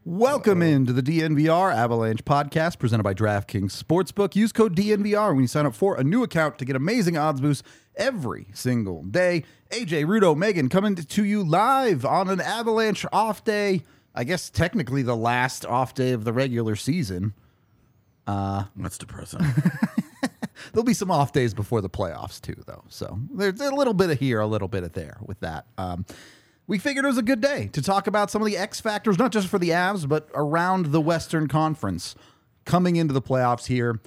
Welcome into the DNVR Avalanche podcast presented by DraftKings Sportsbook. Use code DNVR when you sign up for a new account to get amazing odds boosts every single day. AJ, Rudo, Megan coming to you live on an Avalanche off day. I guess technically the last off day of the regular season. That's depressing. There'll be some off days before the playoffs too, though. So there's a little bit of here, a little bit of there with that. We figured it was a good day to talk about some of the X factors, not just for the Avs, but around the Western Conference coming into the playoffs here.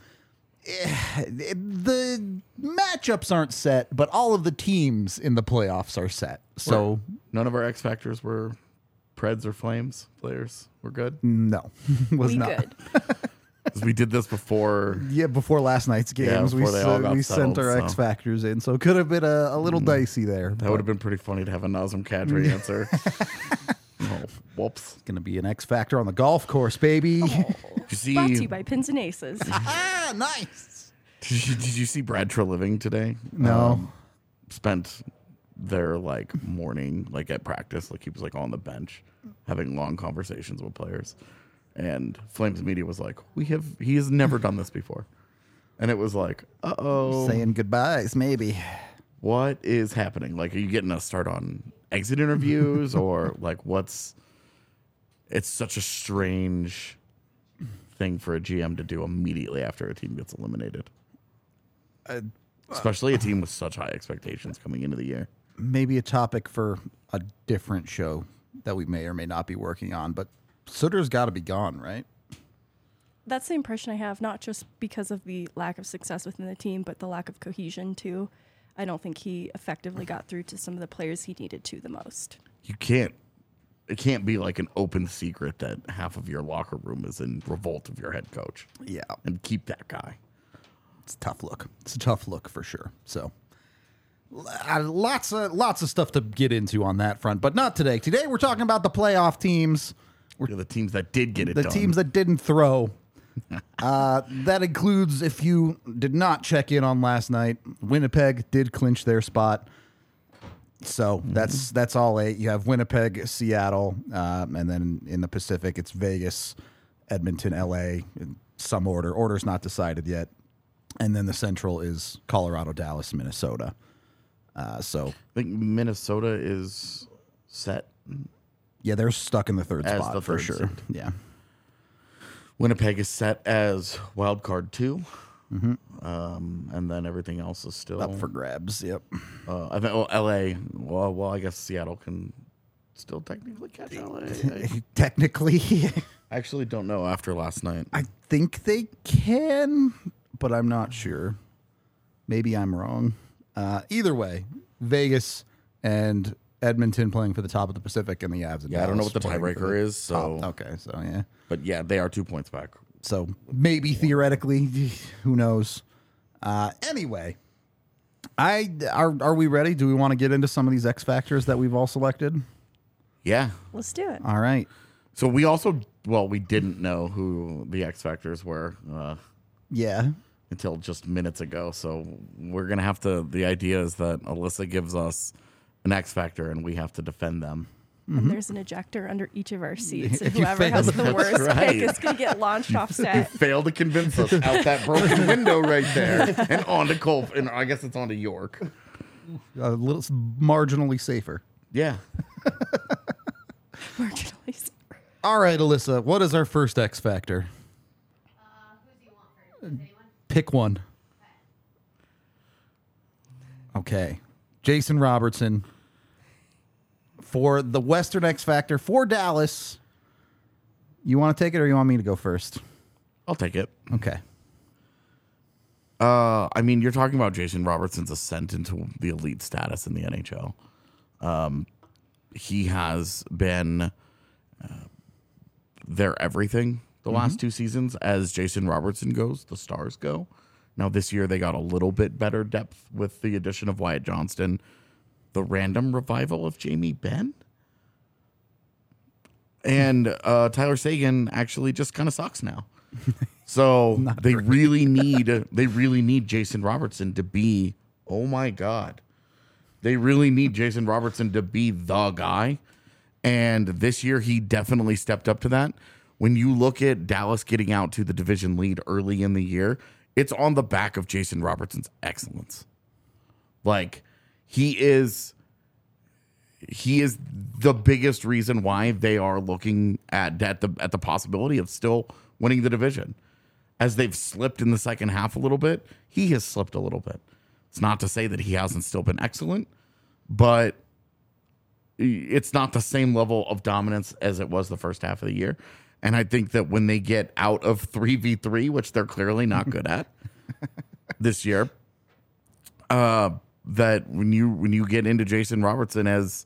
The matchups aren't set, but all of the teams in the playoffs are set. So none of our X factors were Preds or Flames players. We're good. No, was we not. good. 'Cause we did this before. Yeah, before last night's games, before they all got we sent settled, our so. X factors in, so it could have been a little dicey there. That would have been pretty funny to have a Nazem Kadri answer. Oh, whoops. Going to be an X factor on the golf course, baby. Did you see? Brought to you by Pins and Aces. Ah, nice. Did you see Brad Treliving today? No. Spent their morning at practice, he was on the bench having long conversations with players. And Flames media was like, he has never done this before. And it was like, uh-oh. Saying goodbyes, maybe. What is happening? Are you getting a start on exit interviews or it's such a strange thing for a GM to do immediately after a team gets eliminated. Especially a team with such high expectations coming into the year. Maybe a topic for a different show that we may or may not be working on, but Sutter's got to be gone, right? That's the impression I have, not just because of the lack of success within the team, but the lack of cohesion, too. I don't think he effectively got through to some of the players he needed to the most. It can't be an open secret that half of your locker room is in revolt of your head coach. Yeah. And keep that guy. It's a tough look. It's a tough look for sure. So lots of stuff to get into on that front, but not today. Today we're talking about the playoff teams. The teams that did get it done. The teams that didn't throw. That includes, if you did not check in on last night, Winnipeg did clinch their spot. So that's all eight. You have Winnipeg, Seattle, and then in the Pacific, it's Vegas, Edmonton, LA, in some order. Order's not decided yet. And then the Central is Colorado, Dallas, Minnesota. So I think Minnesota is set. Yeah, they're stuck in the third As spot the for third sure. seed. Yeah. Winnipeg is set as wild card 2. And then everything else is still Up for grabs. Yep. I think LA. Well, I guess Seattle can still technically catch LA. Technically, I actually don't know after last night. I think they can, but I'm not sure. Maybe I'm wrong. Either way, Vegas and Edmonton playing for the top of the Pacific, and the Avs. And I don't know what the Dallas playing for tiebreaker is. So okay, so yeah. But yeah, they are 2 points back. So maybe theoretically, who knows? Anyway, are we ready? Do we want to get into some of these X factors that we've all selected? Yeah. Let's do it. All right. So we didn't know who the X factors were Yeah. until just minutes ago. So we're gonna have to. The idea is that Alyssa gives us an X factor, and we have to defend them. And there's an ejector under each of our seats. And If you whoever fail, has the worst right. pick is going to get launched off set. Failed to convince us out that broken window right there, and onto Cole, and I guess it's onto York. A little marginally safer. Yeah. Marginally safer. All right, Alyssa, what is our first X factor? Who do you want first? Anyone? Pick one. Okay. Jason Robertson for the Western X Factor for Dallas. You want to take it or you want me to go first? I'll take it. Okay. I mean, you're talking about Jason Robertson's ascent into the elite status in the NHL. He has been their everything the last 2 seasons. As Jason Robertson goes, the Stars go. Now, this year, they got a little bit better depth with the addition of Wyatt Johnston. The random revival of Jamie Benn. And Tyler Seguin actually just kind of sucks now. So they really need Jason Robertson to be, oh my God. They really need Jason Robertson to be the guy. And this year, he definitely stepped up to that. When you look at Dallas getting out to the division lead early in the year, it's on the back of Jason Robertson's excellence. Like, he is the biggest reason why they are looking at the possibility of still winning the division. As they've slipped in the second half a little bit, he has slipped a little bit. It's not to say that he hasn't still been excellent, but it's not the same level of dominance as it was the first half of the year. And I think that when they get out of 3v3, which they're clearly not good at this year, that when you get into Jason Robertson as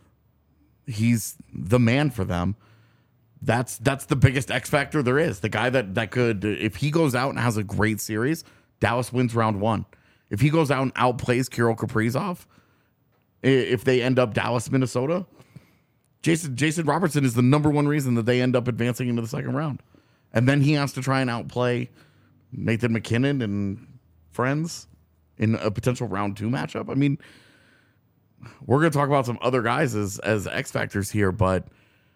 he's the man for them, that's the biggest X factor there is. The guy that could, if he goes out and has a great series, Dallas wins round one. If he goes out and outplays Kirill Kaprizov, if they end up Dallas, Minnesota, Jason Robertson is the number one reason that they end up advancing into the second round. And then he has to try and outplay Nathan McKinnon and friends in a potential round 2 matchup. I mean, we're going to talk about some other guys as X factors here, but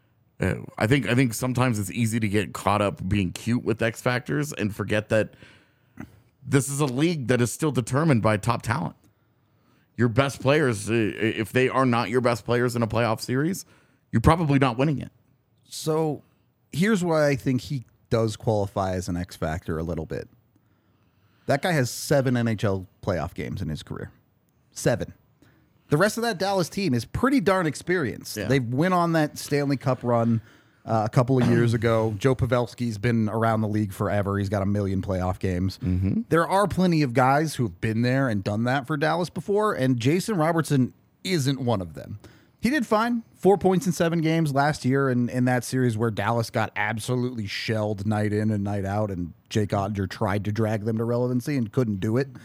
I think sometimes it's easy to get caught up being cute with X factors and forget that this is a league that is still determined by top talent. Your best players, if they are not your best players in a playoff series, you're probably not winning it. So here's why I think he does qualify as an X factor a little bit. That guy has 7 NHL playoff games in his career. 7. The rest of that Dallas team is pretty darn experienced. Yeah. They went on that Stanley Cup run a couple of years ago. Joe Pavelski's been around the league forever. He's got 1 million playoff games. Mm-hmm. There are plenty of guys who have been there and done that for Dallas before, and Jason Robertson isn't one of them. He did fine. 4 points in 7 games last year in that series where Dallas got absolutely shelled night in and night out, and Jake Oettinger tried to drag them to relevancy and couldn't do it.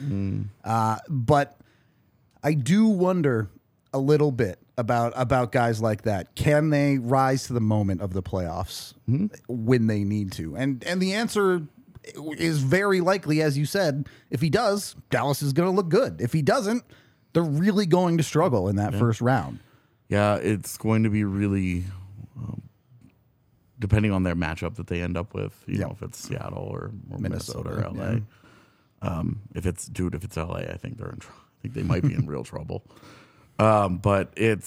But I do wonder a little bit about guys like that. Can they rise to the moment of the playoffs when they need to? And the answer is very likely, as you said. If he does, Dallas is going to look good. If he doesn't, they're really going to struggle in that first round. Yeah, it's going to be really depending on their matchup that they end up with. You know, if it's Seattle or Minnesota or LA. Yeah. If it's LA, I think they're in trouble. I think they might be in real trouble. But it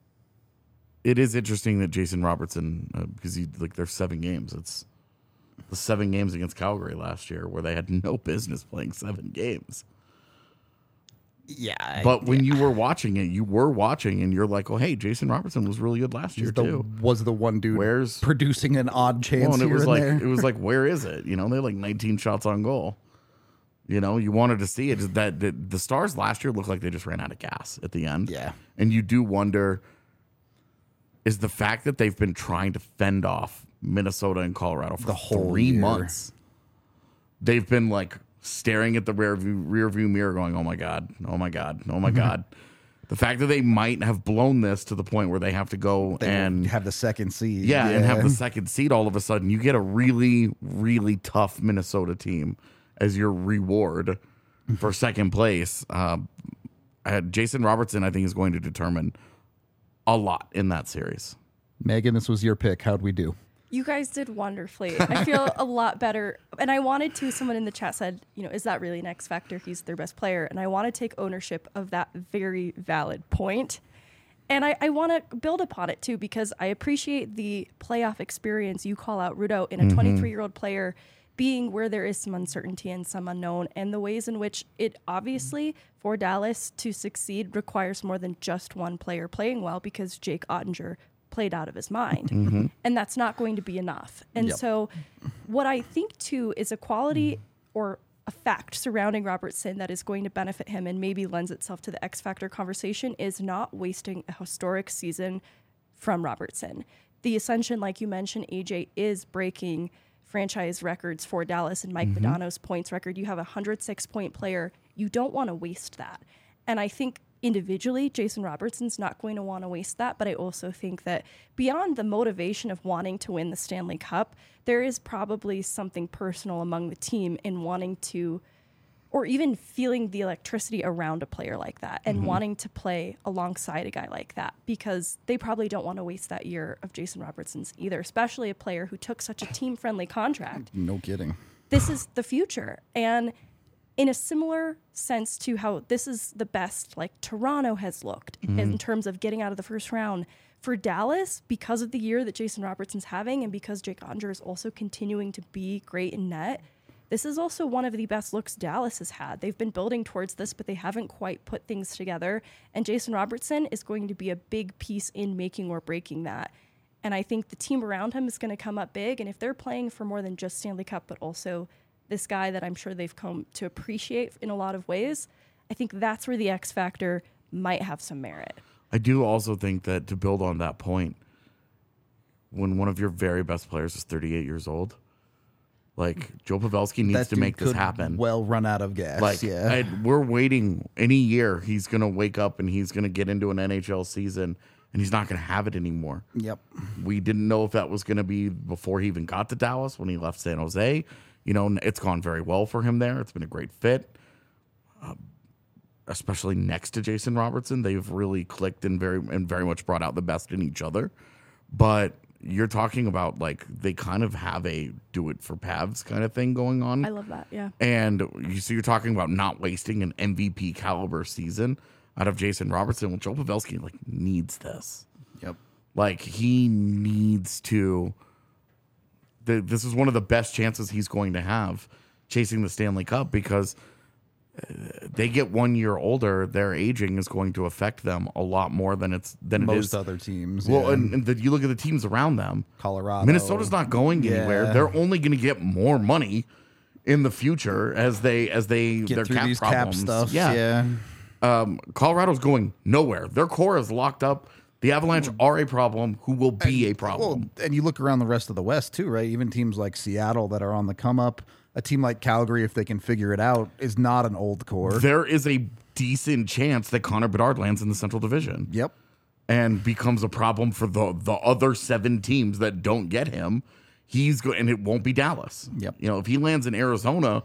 is interesting that Jason Robertson, because there's 7 games. It's the 7 games against Calgary last year where they had no business playing 7 games. Yeah. But when you were watching it, you were watching and you're like, oh, hey, Jason Robertson was really good last year too. Was the one dude producing an odd chance and here and there. It was like, where is it? You know, they had like 19 shots on goal. You know, you wanted to see it. That the Stars last year looked like they just ran out of gas at the end. Yeah. And you do wonder, is the fact that they've been trying to fend off Minnesota and Colorado for the whole 3 year. months, they've been like staring at the rear view mirror going, oh my God. The fact that they might have blown this to the point where they have to go and have the second seed. Yeah, and have the second seed all of a sudden. You get a really, really tough Minnesota team as your reward for second place. Jason Robertson, I think, is going to determine a lot in that series. Megan, this was your pick. How'd we do? You guys did wonderfully. I feel a lot better. And I wanted to, someone in the chat said, is that really an X factor? He's their best player. And I want to take ownership of that very valid point. And I want to build upon it too, because I appreciate the playoff experience you call out, Rudo, in a 23-year-old player being where there is some uncertainty and some unknown, and the ways in which it obviously, for Dallas to succeed, requires more than just one player playing well, because Jake Oettinger played out of his mind. And that's not going to be enough. And so what I think, too, is a quality or a fact surrounding Robertson that is going to benefit him and maybe lends itself to the X Factor conversation is not wasting a historic season from Robertson. The Ascension, like you mentioned, AJ, is breaking franchise records for Dallas, and Mike Modano's points record. You have a 106-point player. You don't want to waste that. And I think individually, Jason Robertson's not going to want to waste that, but I also think that beyond the motivation of wanting to win the Stanley Cup, there is probably something personal among the team in wanting to, or even feeling the electricity around a player like that and wanting to play alongside a guy like that, because they probably don't want to waste that year of Jason Robertson's either, especially a player who took such a team-friendly contract. No kidding. This is the future. And in a similar sense to how this is the best like Toronto has looked in terms of getting out of the first round, for Dallas, because of the year that Jason Robertson's having and because Jake Ottinger is also continuing to be great in net, this is also one of the best looks Dallas has had. They've been building towards this, but they haven't quite put things together. And Jason Robertson is going to be a big piece in making or breaking that. And I think the team around him is going to come up big. And if they're playing for more than just Stanley Cup, but also this guy that I'm sure they've come to appreciate in a lot of ways, I think that's where the X factor might have some merit. I do also think that, to build on that point, when one of your very best players is 38 years old, like Joe Pavelski needs That to dude make this could happen. Well, run out of gas. Like, yeah. we're waiting any year. He's going to wake up and he's going to get into an NHL season and he's not going to have it anymore. Yep. We didn't know if that was going to be before he even got to Dallas, when he left San Jose. You know, it's gone very well for him there. It's been a great fit, especially next to Jason Robertson. They've really clicked and very much brought out the best in each other. But you're talking about, like, they kind of have a do it for Pavs kind of thing going on. I love that, yeah. And you're talking about not wasting an MVP caliber season out of Jason Robertson. Well, Joe Pavelski, like, needs this. Yep. Like, he needs to. This is one of the best chances he's going to have chasing the Stanley Cup, because they get 1 year older. Their aging is going to affect them a lot more than it Most is other teams. Well, yeah. and you look at the teams around them. Colorado. Minnesota's not going anywhere. Yeah. They're only going to get more money in the future as they get their through cap these problems. cap stuff. Yeah. Colorado's going nowhere. Their core is locked up. The Avalanche are a problem who will be a problem. Well, and you look around the rest of the West too, right? Even teams like Seattle that are on the come up. A team like Calgary, if they can figure it out, is not an old core. There is a decent chance that Connor Bedard lands in the Central Division. Yep. And becomes a problem for the other 7 teams that don't get him. And it won't be Dallas. Yep. You know, if he lands in Arizona,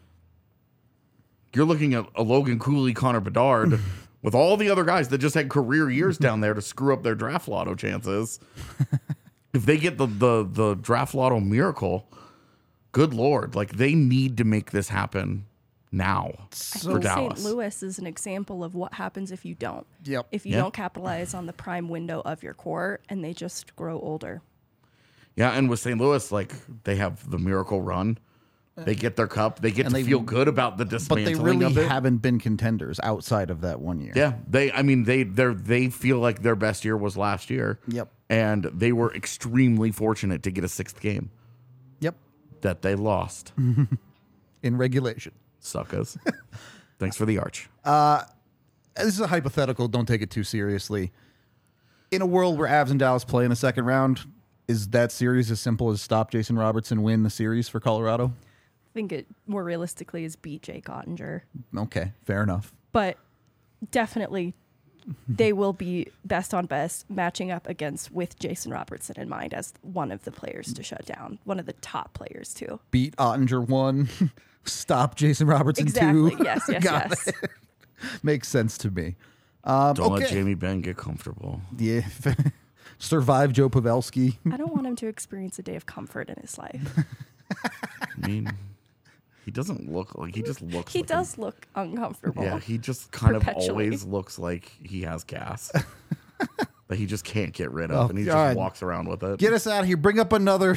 you're looking at a Logan Cooley, Connor Bedard, with all the other guys that just had career years down there to screw up their draft lotto chances. If they get the draft lotto miracle, good Lord, like, they need to make this happen now I for think Dallas. St. Louis is an example of what happens if you don't. Yep. If you Yeah. don't capitalize on the prime window of your core and they just grow older. Yeah, and with St. Louis, like, they have the miracle run. They get their cup. They get And to they- feel good about the But dismantling they really of it. haven't been contenders outside of that 1 year. Yeah, they feel like their best year was last year. Yep. And they were extremely fortunate to get a 6th game Yep. that they lost. In regulation. Suckers. Thanks for the arch. This is a hypothetical. Don't take it too seriously. In a world where Avs and Dallas play in the second round, is that series as simple as stop Jason Robertson, win the series for Colorado? I think it more realistically is beat Jake Ottinger. Okay, fair enough. But definitely they will be best on best matching up against with Jason Robertson in mind as one of the players to shut down, one of the top players too. Beat Ottinger 1, stop Jason Robertson 2. Exactly. Yes, yes, Got yes. it. Makes sense to me. Don't let okay. Jamie Benn get comfortable. Yeah. Survive Joe Pavelski. I don't want him to experience a day of comfort in his life. I mean, he doesn't look like, he just looks He like does look uncomfortable. Yeah, he just kind of Perpetually. always looks like he has gas that he just can't get rid of, Oh, and he just all right. walks around with it. Get us out of here. Bring up another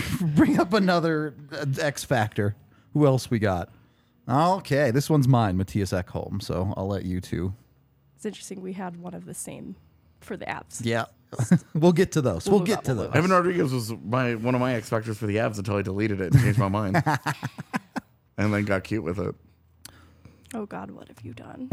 X Factor. Who else we got? Okay, this one's mine, Matthias Ekholm, so I'll let you two. It's interesting we had one of the same for the Avs. Yeah. We'll get to those. We'll move get on, to we'll those. Evan Rodriguez was one of my X Factors for the Avs until I deleted it and changed my mind. And then got cute with it. Oh God, what have you done?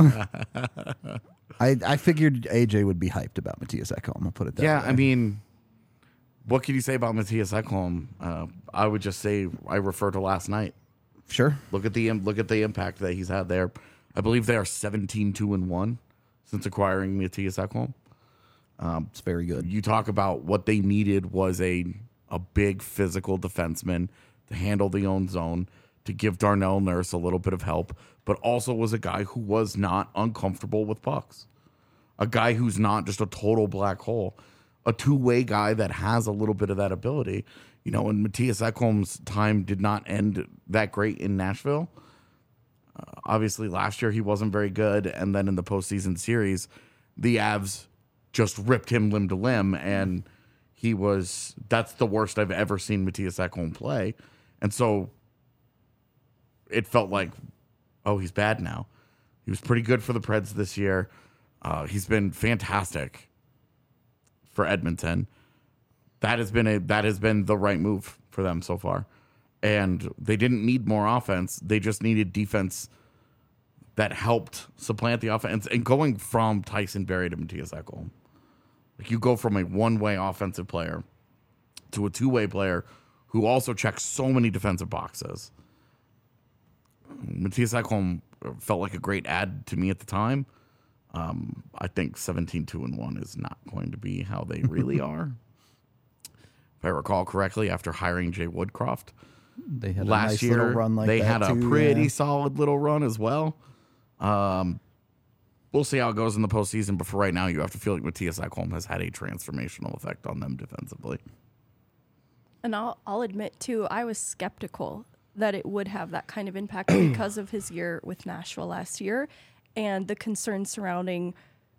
I figured AJ would be hyped about Matthias Ekholm. I'll put it that way. Yeah, I mean, what can you say about Matthias Ekholm? I would just say I refer to last night. Sure. Look at the impact that he's had there. I believe they are 17-2-1 since acquiring Matthias Ekholm. It's very good. You talk about what they needed was a big physical defenseman to handle the own zone, to give Darnell Nurse a little bit of help, but also was a guy who was not uncomfortable with pucks. A guy who's not just a total black hole. A two-way guy that has a little bit of that ability. You know, and Matthias Ekholm's time did not end that great in Nashville. Obviously, last year he wasn't very good, and then in the postseason series, the Avs just ripped him limb to limb, and that's the worst I've ever seen Matthias Ekholm play. And so it felt like, oh, he's bad now. He was pretty good for the Preds this year. He's been fantastic for Edmonton. That has been the right move for them so far. And they didn't need more offense. They just needed defense that helped supplant the offense. And going from Tyson Barrie to Matthias Ekholm, like you go from a one-way offensive player to a two-way player who also checks so many defensive boxes. Matthias Ekholm felt like a great add to me at the time. I think 17-2-1 is not going to be how they really are. If I recall correctly, after hiring Jay Woodcroft They had last a nice year, little run like they that had a too, pretty yeah. solid little run as well. We'll see how it goes in the postseason, but for right now, you have to feel like Matthias Ekholm has had a transformational effect on them defensively. And I'll admit, too, I was skeptical that it would have that kind of impact because of his year with Nashville last year and the concerns surrounding.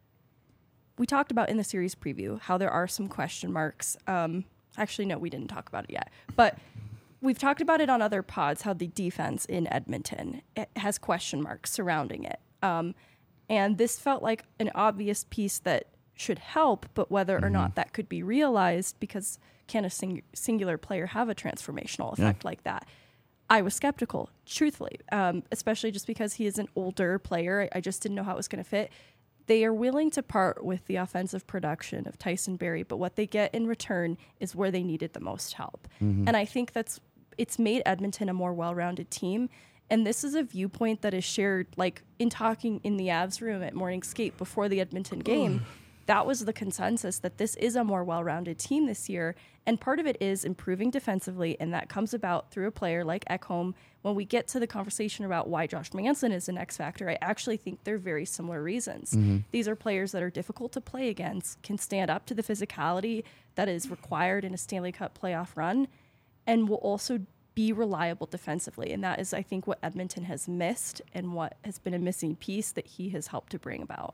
We talked about in the series preview how there are some question marks. Actually, no, we didn't talk about it yet. But we've talked about it on other pods, how the defense in Edmonton has question marks surrounding it. And this felt like an obvious piece that should help, but whether or not that could be realized, because can a singular player have a transformational effect like that? I was skeptical, truthfully, especially just because he is an older player. I just didn't know how it was going to fit. They are willing to part with the offensive production of Tyson Barrie, but what they get in return is where they needed the most help. And I think it's made Edmonton a more well-rounded team. And this is a viewpoint that is shared, like in talking in the Avs room at Morning Skate before the Edmonton game. That was the consensus, that this is a more well-rounded team this year. And part of it is improving defensively, and that comes about through a player like Ekholm. When we get to the conversation about why Josh Manson is an X factor, I actually think they're very similar reasons. These are players that are difficult to play against, can stand up to the physicality that is required in a Stanley Cup playoff run, and will also be reliable defensively. And that is, I think, what Edmonton has missed and what has been a missing piece that he has helped to bring about.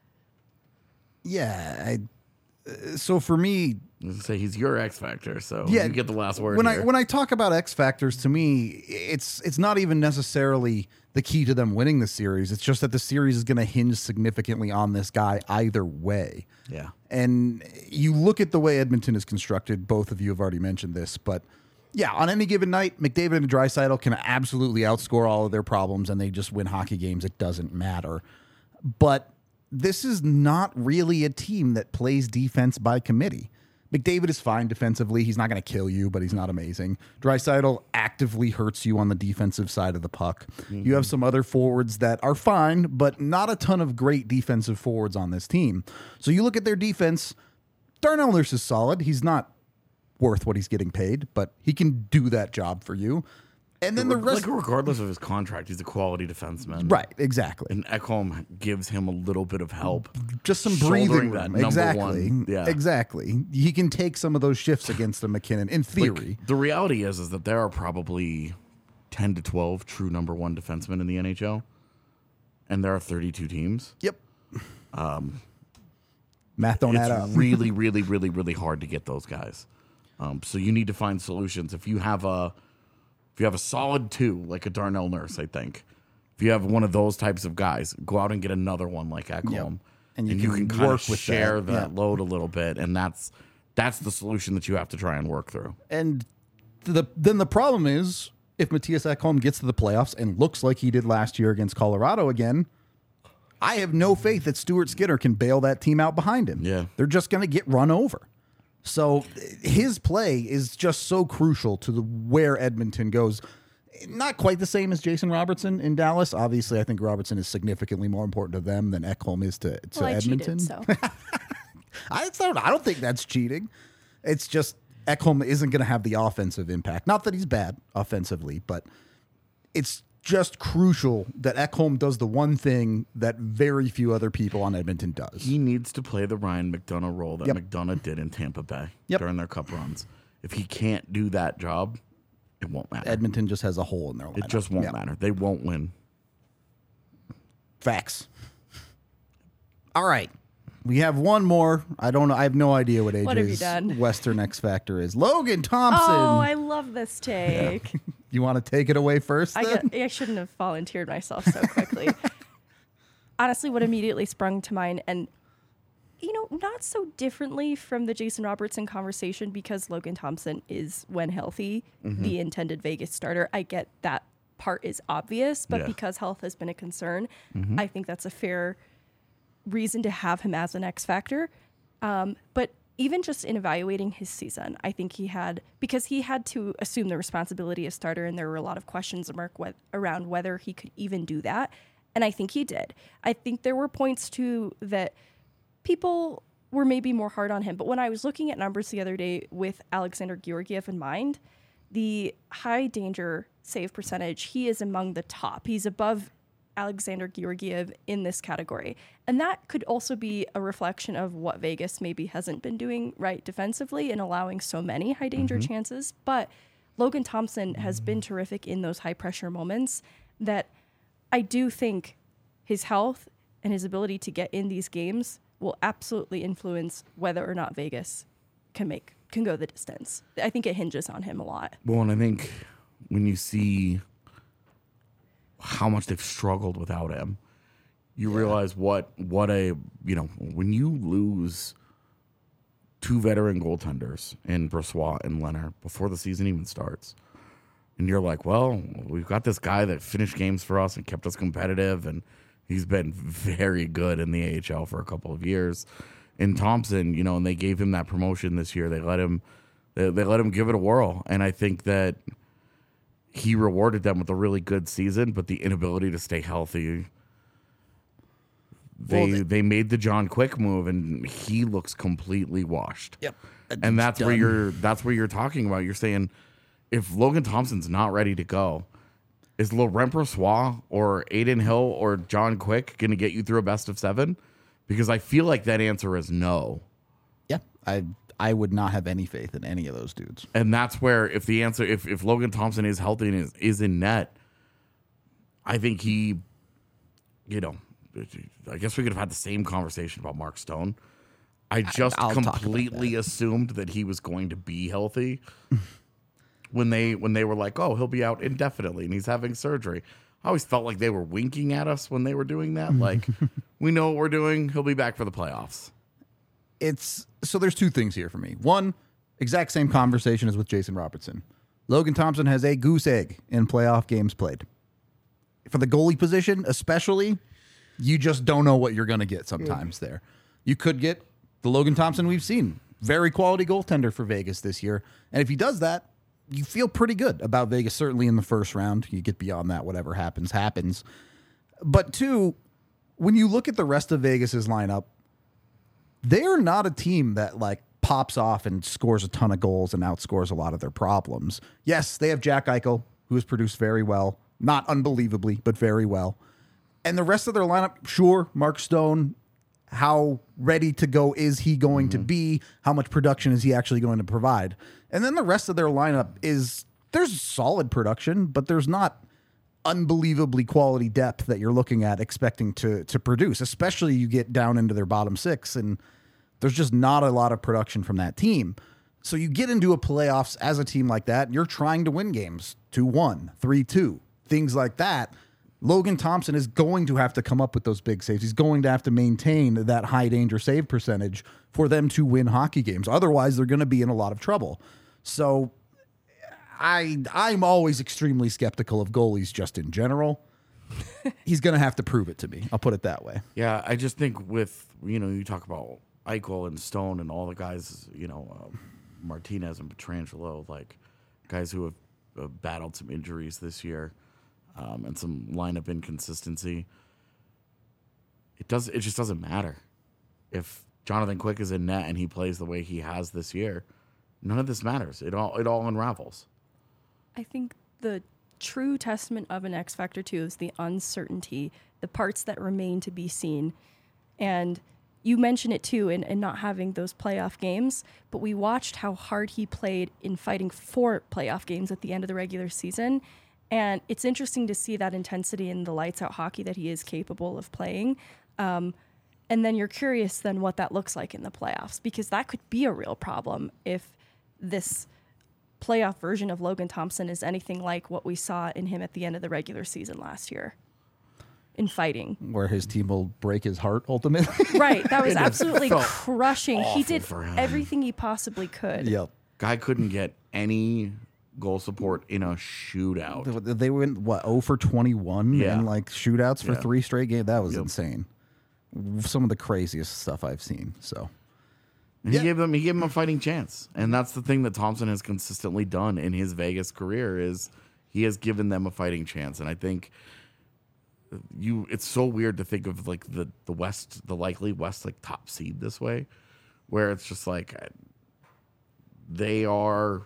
Yeah. So for me, I was gonna say he's your X factor, so Yeah, you get the last word. when here. I talk about X factors, to me, it's not even necessarily the key to them winning the series. It's just that the series is going to hinge significantly on this guy either way. Yeah. And you look at the way Edmonton is constructed. Both of you have already mentioned this, but yeah, on any given night, McDavid and Draisaitl can absolutely outscore all of their problems, and they just win hockey games. It doesn't matter. But this is not really a team that plays defense by committee. McDavid is fine defensively. He's not going to kill you, but he's not amazing. Draisaitl actively hurts you on the defensive side of the puck. You have some other forwards that are fine, but not a ton of great defensive forwards on this team. So you look at their defense, Darnell Nurse is solid. He's not worth what he's getting paid, but he can do that job for you. And then the rest... like regardless of his contract, he's a quality defenseman. Right, exactly. And Ekholm gives him a little bit of help. Just some Shouldering breathing that room. number Exactly. one. Yeah. Exactly. He can take some of those shifts against the McKinnon, in theory. The reality is that there are probably 10 to 12 true number one defensemen in the NHL, and there are 32 teams. Yep. Math don't add up. It's really, really, really, really hard to get those guys. So you need to find solutions. If you have a solid two, like a Darnell Nurse, I think, if you have one of those types of guys, go out and get another one like Ekholm, Yep. And you can kind work of with share that. Yeah. load a little bit, and that's the solution that you have to try and work through. And then the problem is, if Matthias Ekholm gets to the playoffs and looks like he did last year against Colorado again, I have no faith that Stuart Skinner can bail that team out behind him. Yeah. They're just going to get run over. So his play is just so crucial to where Edmonton goes. Not quite the same as Jason Robertson in Dallas. Obviously, I think Robertson is significantly more important to them than Ekholm is to Well, I Edmonton. cheated, so. I don't think that's cheating. It's just Ekholm isn't going to have the offensive impact. Not that he's bad offensively, but it's just crucial that Ekholm does the one thing that very few other people on Edmonton does. He needs to play the Ryan McDonough role that Yep. McDonough did in Tampa Bay Yep. during their cup runs. If he can't do that job, it won't matter. Edmonton just has a hole in their lineup. It just won't Yep. matter. They won't win. Facts. All right. We have one more. I don't know. I have no idea what What have you AJ's done? Western X Factor is. Logan Thompson. Oh, I love this take. You want to take it away first? Then? I shouldn't have volunteered myself so quickly. Honestly, what immediately sprung to mind, and not so differently from the Jason Robertson conversation, because Logan Thompson is, when healthy, the intended Vegas starter. I get that part is obvious, but Yeah. because health has been a concern, I think that's a fair reason to have him as an X factor. But even just in evaluating his season, I think because he had to assume the responsibility of starter, and there were a lot of questions around whether he could even do that. And I think he did. I think there were points too that people were maybe more hard on him. But when I was looking at numbers the other day with Alexander Georgiev in mind, the high danger save percentage, he is among the top. He's above Alexander Georgiev in this category. And that could also be a reflection of what Vegas maybe hasn't been doing right defensively and allowing so many high danger chances. But Logan Thompson has been terrific in those high pressure moments that I do think his health and his ability to get in these games will absolutely influence whether or not Vegas can go the distance. I think it hinges on him a lot. Well, and I think when you see how much they've struggled without him, you realize what a when you lose two veteran goaltenders in Brossoit and Leonard before the season even starts, and you're like, well, we've got this guy that finished games for us and kept us competitive, and he's been very good in the AHL for a couple of years. And Thompson, and they gave him that promotion this year. They let him give it a whirl, and I think that he rewarded them with a really good season, but the inability to stay healthy. They made the John Quick move, and he looks completely washed. Yep. And that's where you're talking about. You're saying if Logan Thompson's not ready to go, is Laurent Brossoit or Aiden Hill or John Quick going to get you through a best of 7? Because I feel like that answer is no. Yeah. I would not have any faith in any of those dudes. And that's where if Logan Thompson is healthy and is in net, I think he, I guess we could have had the same conversation about Mark Stone. I just I'll talk about completely assumed that he was going to be healthy when they were like, oh, he'll be out indefinitely and he's having surgery. I always felt like they were winking at us when they were doing that. Like, we know what we're doing. He'll be back for the playoffs. So there's two things here for me. One, exact same conversation as with Jason Robertson. Logan Thompson has a goose egg in playoff games played. For the goalie position, especially, you just don't know what you're going to get sometimes there. You could get the Logan Thompson we've seen. Very quality goaltender for Vegas this year. And if he does that, you feel pretty good about Vegas, certainly in the first round. You get beyond that, whatever happens, happens. But two, when you look at the rest of Vegas's lineup, they're not a team that like pops off and scores a ton of goals and outscores a lot of their problems. Yes, they have Jack Eichel, who has produced very well. Not unbelievably, but very well. And the rest of their lineup, sure, Mark Stone, how ready to go is he going to be? How much production is he actually going to provide? And then the rest of their lineup there's solid production, but there's not unbelievably quality depth that you're looking at expecting to produce, especially you get down into their bottom 6 and there's just not a lot of production from that team. So you get into a playoffs as a team like that, and you're trying to win games 2-1, 3-2, things like that. Logan Thompson is going to have to come up with those big saves. He's going to have to maintain that high danger save percentage for them to win hockey games. Otherwise, they're going to be in a lot of trouble. So I'm always extremely skeptical of goalies just in general. He's going to have to prove it to me. I'll put it that way. Yeah, I just think with, you talk about Eichel and Stone and all the guys, Martinez and Petrangelo, like guys who have battled some injuries this year. And some lineup inconsistency. It just doesn't matter. If Jonathan Quick is in net and he plays the way he has this year, none of this matters. It all unravels. I think the true testament of an X factor too is the uncertainty, the parts that remain to be seen. And you mentioned it too in not having those playoff games, but we watched how hard he played in fighting for playoff games at the end of the regular season. And it's interesting to see that intensity in the lights out hockey that he is capable of playing. And then you're curious then what that looks like in the playoffs, because that could be a real problem if this playoff version of Logan Thompson is anything like what we saw in him at the end of the regular season last year in fighting. Where his team will break his heart ultimately. Right. That was absolutely felt crushing. He did for him. everything he possibly could. Yep. Guy couldn't get any goal support in a shootout. They went, what, 0 for 21 Yeah. in like shootouts for Yeah. 3 straight games? That was Yep. insane. Some of the craziest stuff I've seen. So, And he gave him a fighting chance. And that's the thing that Thompson has consistently done in his Vegas career is he has given them a fighting chance. And I think it's so weird to think of like the West, the likely West like top seed this way, where it's just like they are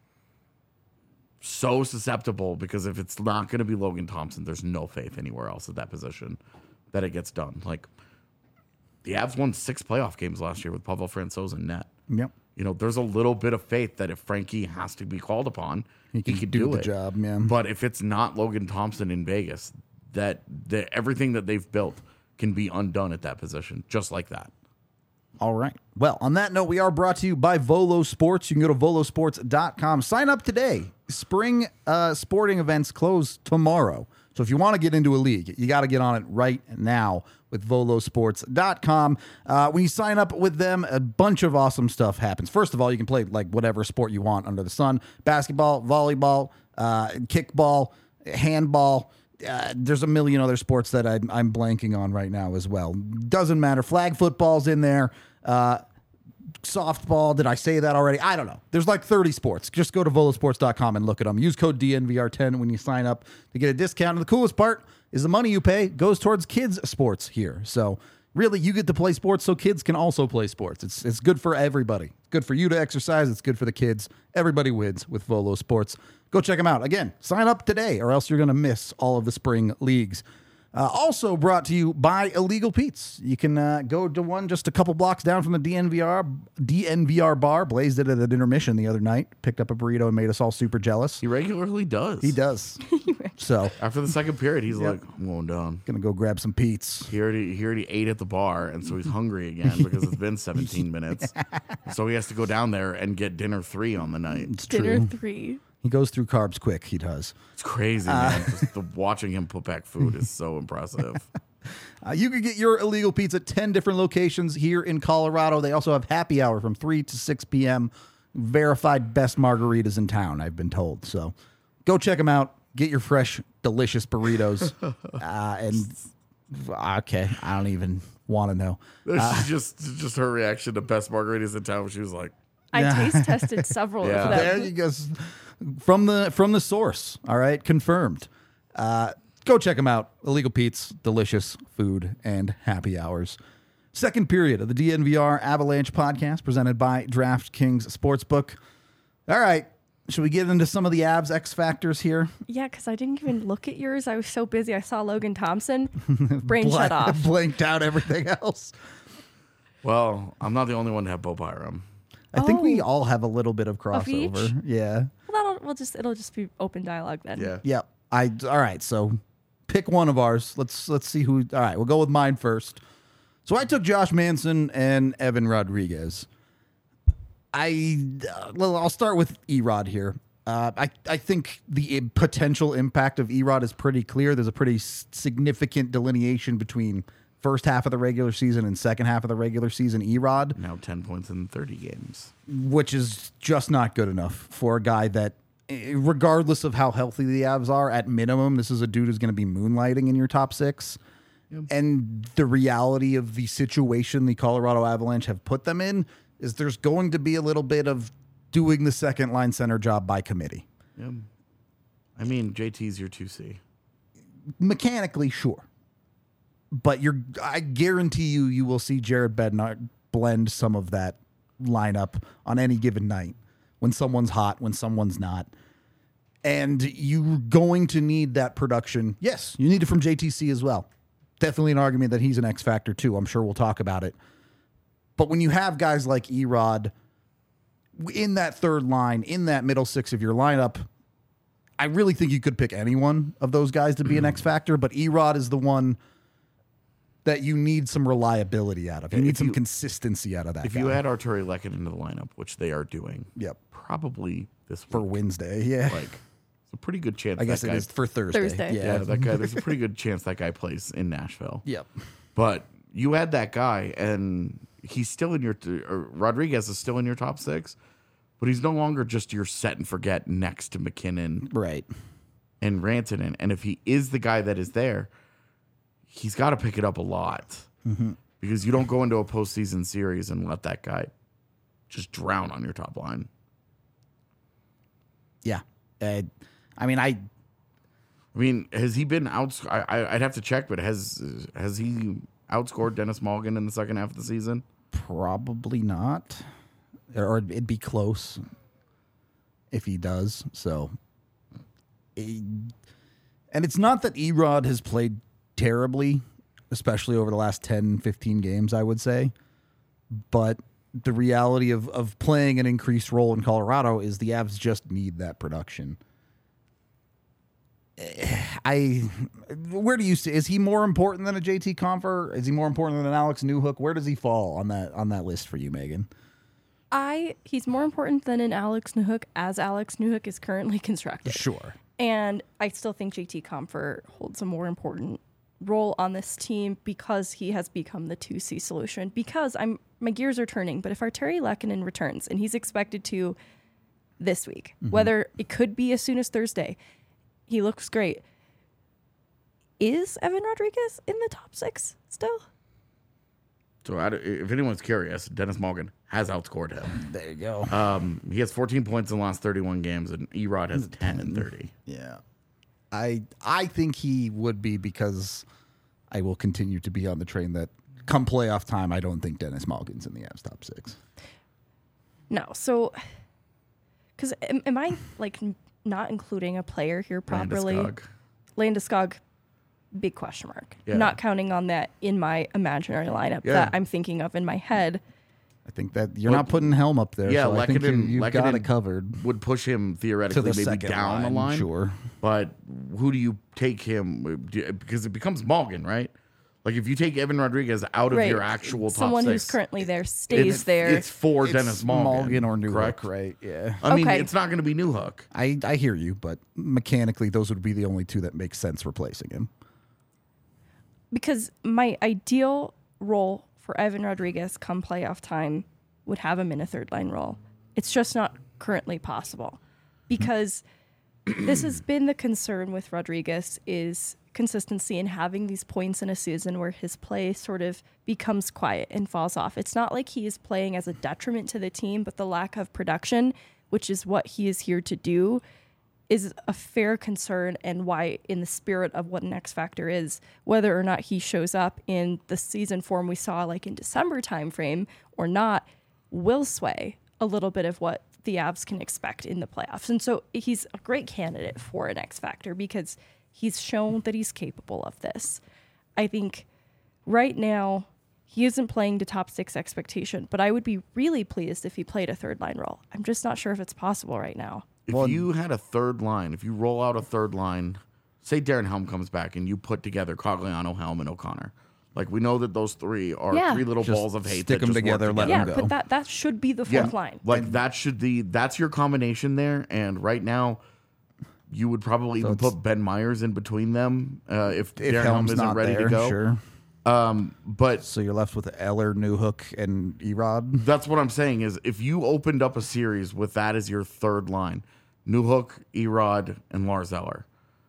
so susceptible because if it's not going to be Logan Thompson, there's no faith anywhere else at that position that it gets done. Like the Avs won 6 playoff games last year with Pavel Francouz in net. yep. You know, there's a little bit of faith that if Frankie has to be called upon, he can could do do the it. job, yeah. But if it's not Logan Thompson in Vegas, that everything that they've built can be undone at that position, just like that. All right. Well, on that note, we are brought to you by Volo Sports. You can go to volosports.com. Sign up today. Spring sporting events close tomorrow. So if you want to get into a league, you got to get on it right now with volosports.com. When you sign up with them, a bunch of awesome stuff happens. First of all, you can play like whatever sport you want under the sun. Basketball, volleyball, kickball, handball. There's a million other sports that I'm blanking on right now as well. Doesn't matter. Flag football's in there. Softball. Did I say that already? I don't know. There's like 30 sports. Just go to volosports.com and look at them. Use code DNVR10 when you sign up to get a discount. And the coolest part is the money you pay goes towards kids' sports here. So really, you get to play sports so kids can also play sports. It's good for everybody. It's good for you to exercise. It's good for the kids. Everybody wins with Volo Sports. Go check them out. Again, sign up today or else you're going to miss all of the spring leagues. Also brought to you by Illegal Pete's. You can go to one just a couple blocks down from the DNVR bar. Blaze did it at intermission the other night. Picked up a burrito and made us all super jealous. He regularly does. He does. So, After the second period, he's like, I'm going down. gonna go grab some Pete's. He already ate at the bar, and so he's hungry again because it's been 17 minutes. So he has to go down there and get dinner 3 on the night. It's Dinner true. 3. He goes through carbs quick. He does. It's crazy, man. Just watching him put back food is so impressive. You can get your Illegal Pete's at 10 different locations here in Colorado. They also have happy hour from 3 to 6 p.m. Verified best margaritas in town, I've been told. So go check them out. Get your fresh, delicious burritos. Okay, I don't even want to know. just her reaction to best margaritas in town. She was like, I taste tested several Yeah. of them. There you go. From the source. All right, confirmed. Go check them out. Illegal Pete's, delicious food and happy hours. Second period of the DNVR Avalanche podcast presented by DraftKings Sportsbook. All right, should we get into some of the Avs X factors here? Yeah, because I didn't even look at yours. I was so busy. I saw Logan Thompson. Brain shut off. Blanked out everything else. well, I'm not the only one to have Bo Byram. I think we Oh. all have a little bit of each? crossover. Yeah. Well, it'll just be open dialogue then. Yeah. Yep. All right. So pick one of ours. Let's see who. All right. We'll go with mine first. So I took Josh Manson and Evan Rodriguez. I'll start with Erod here. I think the potential impact of Erod is pretty clear. There's a pretty significant delineation between first half of the regular season and second half of the regular season Erod, Now 10 points in 30 games. which is just not good enough for a guy that, regardless of how healthy the Avs are, at minimum, this is a dude who's going to be moonlighting in your top 6. Yep. And the reality of the situation the Colorado Avalanche have put them in is there's going to be a little bit of doing the second line center job by committee. Yeah. I mean, JT's your 2C. Mechanically, sure. But I guarantee you will see Jared Bednar blend some of that lineup on any given night when someone's hot, when someone's not. And you're going to need that production. Yes, you need it from JTC as well. Definitely an argument that he's an X factor too. I'm sure we'll talk about it. But when you have guys like Erod in that third line, in that middle six of your lineup, I really think you could pick any one of those guys to be an X factor. But Erod is the one that you need some reliability out of. You need some consistency out of that If guy. you add Arturi Lekin into the lineup, which they are doing, Yep. probably this For week, Wednesday, yeah. like it's a pretty good chance. I guess that it guy, is for Thursday. Thursday. Yeah, that guy. There's a pretty good chance that guy plays in Nashville. Yep. But you add that guy, and he's still in your. Rodriguez is still in your top six, but he's no longer just your set and forget next to McKinnon Right. and Rantanen. And if he is the guy that is there, he's got to pick it up a lot because you don't go into a postseason series and let that guy just drown on your top line. Yeah. I mean, has he been I'd have to check, but has he outscored Dennis Malgin in the second half of the season? probably not. Or it'd be close if he does. So, and it's not that Erod has played terribly, especially over the last 10, 15 games, I would say. But the reality of playing an increased role in Colorado is the Avs just need that production. Where do you see? Is he more important than a JT Compher? Is he more important than an Alex Newhook? Where does he fall on that list for you, Megan? He's more important than an Alex Newhook as Alex Newhook is currently constructed. Sure. And I still think JT Compher holds a more important role on this team because he has become the 2C solution. Because my gears are turning, but if Arturi Lehkonen returns, and he's expected to this week, whether it could be as soon as Thursday, he looks great. Is Evan Rodriguez in the top six still? So if anyone's curious, Dennis Malgin has outscored him. There you go. He has 14 points in the last 31 games, and Erod has 10 and 30. Yeah. I think he would be because I will continue to be on the train that come playoff time, I don't think Dennis Malgin's in the Avs top six. No. So, because am I like not including a player here properly? Landeskog. Landeskog, big question mark. Yeah. Not counting on that in my imaginary lineup Yeah. that I'm thinking of in my head. I think that you're not putting Helm up there. Yeah, so I think Lehkonen- you've got Lehkonen it covered Would push him to theoretically the maybe second down line, the line. Sure. But who do you take him? Because it becomes Malgin, right? Like if you take Evan Rodriguez out of Right. your actual top Someone six, who's currently there stays it's, there. It's for Dennis Malgin, or Newhook, correct? right? Yeah. I mean, Okay. it's not going to be Newhook. I hear you, but mechanically, those would be the only two that make sense replacing him. Because my ideal role for Evan Rodriguez come playoff time would have him in a third line role. It's just not currently possible because this has been the concern with Rodriguez is consistency and having these points in a season where his play sort of becomes quiet and falls off. It's not like he is playing as a detriment to the team, but the lack of production, which is what he is here to do, is a fair concern, and why, in the spirit of what an X factor is, whether or not he shows up in the season form we saw like in December timeframe or not, will sway a little bit of what the Avs can expect in the playoffs. And so he's a great candidate for an X factor because he's shown that he's capable of this. I think right now he isn't playing to top six expectation, but I would be really pleased if he played a third line role. I'm just not sure if it's possible right now. If you had a third line, if you roll out a third line, say Darren Helm comes back and you put together Cogliano, Helm, and O'Connor. Like we know that those three are Yeah. three little Just balls of hate. stick that them just work together, let Yeah, them go. but that should be the fourth line. Like that's your combination there. And right now, you would probably even it's- put Ben Myers in between them if Darren Helm Helm's isn't not ready there, to go. sure. But So you're left with Eller, Newhook, and Erod. that's what I'm saying is if you opened up a series with that as your third line, Newhook, Erod, and Lars Eller.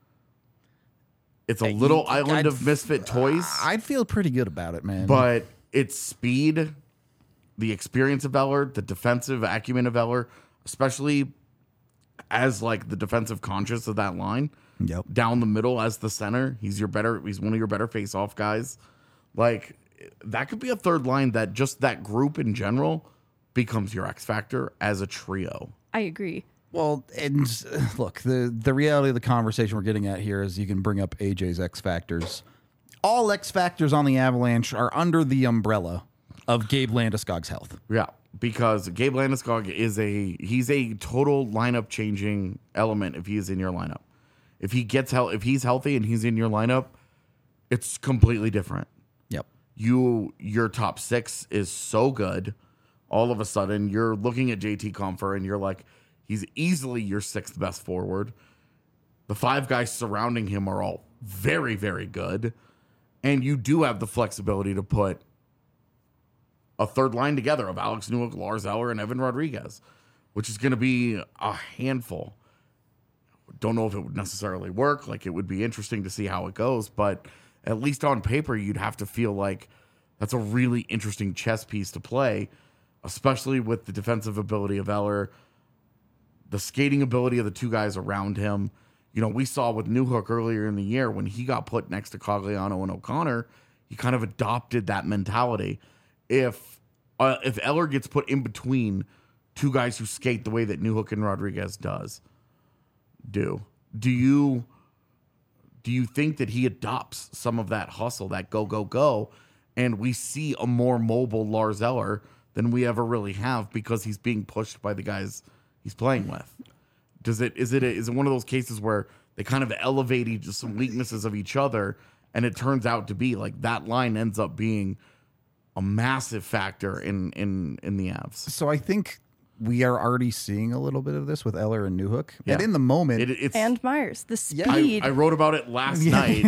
It's a little island of misfit toys. I'd feel pretty good about it, man. But it's speed, the experience of Eller, the defensive acumen of Eller, especially as like the defensive conscious of that line. Yep. Down the middle as the center. He's one of your better face-off guys. Like that could be a third line that just that group in general becomes your X factor as a trio. I agree. Well, and look, the reality of the conversation we're getting at here is you can bring up AJ's X Factors. All X Factors on the Avalanche are under the umbrella of Gabe Landeskog's health. Yeah, because Gabe Landeskog he's a total lineup changing element if he's in your lineup. If he's healthy and he's in your lineup, it's completely different. Yep. Your top six is so good. All of a sudden, you're looking at JT Compher and you're like, he's easily your sixth best forward. The five guys surrounding him are all very, very good. And you do have the flexibility to put a third line together of Alex Newhook, Lars Eller, and Evan Rodriguez, which is going to be a handful. Don't know if it would necessarily work. Like, it would be interesting to see how it goes. But at least on paper, you'd have to feel like that's a really interesting chess piece to play, especially with the defensive ability of Eller, the skating ability of the two guys around him. You know, we saw with Newhook earlier in the year when he got put next to Cogliano and O'Connor, he kind of adopted that mentality. If Eller gets put in between two guys who skate the way that Newhook and Rodriguez do you think that he adopts some of that hustle, that go, and we see a more mobile Lars Eller than we ever really have because he's being pushed by the guys he's playing with? Is it one of those cases where they kind of elevate some weaknesses of each other, and it turns out to be like that line ends up being a massive factor in the Avs? So I think we are already seeing a little bit of this with Eller and Newhook. Yeah. And in the moment, It's And Myers, the speed. I wrote about it last night.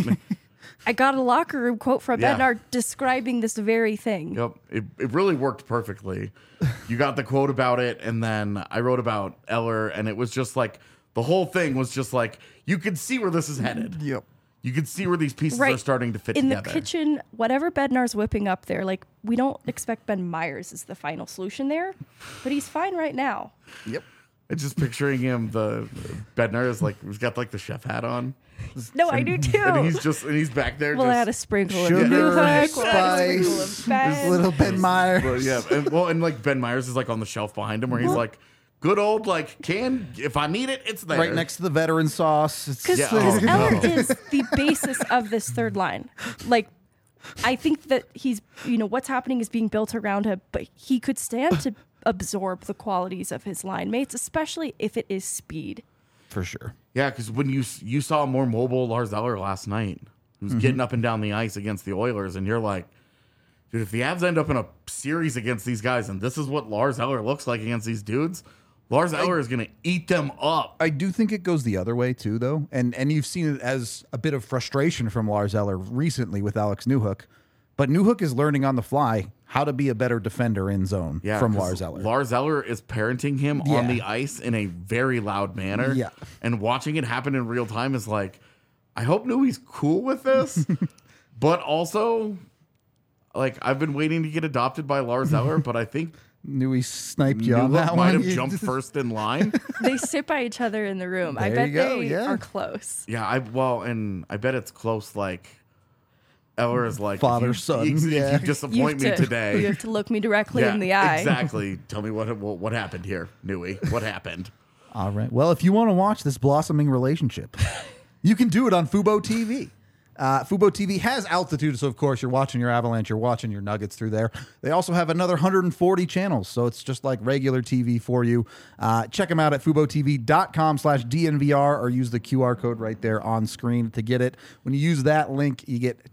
I got a locker room quote from Yeah. Bednar describing this very thing. Yep. It really worked perfectly. You got the quote about it, and then I wrote about Eller, and it was just like the whole thing was just like you could see where this is headed. Yep. You could see where these pieces are starting to fit in together. the kitchen, whatever Bednar's whipping up there, like, we don't expect Ben Myers is the final solution there, but he's fine right now. Yep. And just picturing him, the Bednar is like he's got like the chef hat on, No, I do too. and he's back there. We'll just, add a sprinkle of Sugar, Newhook, we'll add a sprinkle spice, of Ben. little Ben Meyer. But yeah, and like Ben Myers is like on the shelf behind him, where he's like, good old like if I need it, it's there. Right next to the veteran sauce. It's Because Yeah, oh, Eller no. is the basis of this third line. Like, I think that he's, what's happening is being built around him, but he could stand to absorb the qualities of his line mates, especially if it is speed. for sure. Yeah, because when you saw a more mobile Lars Eller last night, who's getting up and down the ice against the Oilers, and you're like, dude, if the Avs end up in a series against these guys, and this is what Lars Eller looks like against these dudes, Lars Eller is going to eat them up. I do think it goes the other way too, though, and you've seen it as a bit of frustration from Lars Eller recently with Alex Newhook, but Newhook is learning on the fly how to be a better defender in zone from 'cause Lars Eller. Lars Eller is parenting him on the ice in a very loud manner. Yeah. And watching it happen in real time is like, I hope Newey's cool with this, but also, like, I've been waiting to get adopted by Lars Eller, but I think Newey sniped you on Newhook that might one. have jumped first in line. They sit by each other in the room. I There bet you go, they yeah. are close. Yeah, and I bet it's close. Like Eller is like Father, if you, son, If yeah. you disappoint me You today, have to look me directly in the eye. Exactly. Tell me what happened here, Newey. What happened? All right. Well, if you want to watch this blossoming relationship, you can do it on Fubo TV. Fubo TV has altitude, so of course you're watching your Avalanche, you're watching your Nuggets through there. They also have another 140 channels, so it's just like regular TV for you. Check them out at FuboTV.com/DNVR or use the QR code right there on screen to get it. When you use that link, you get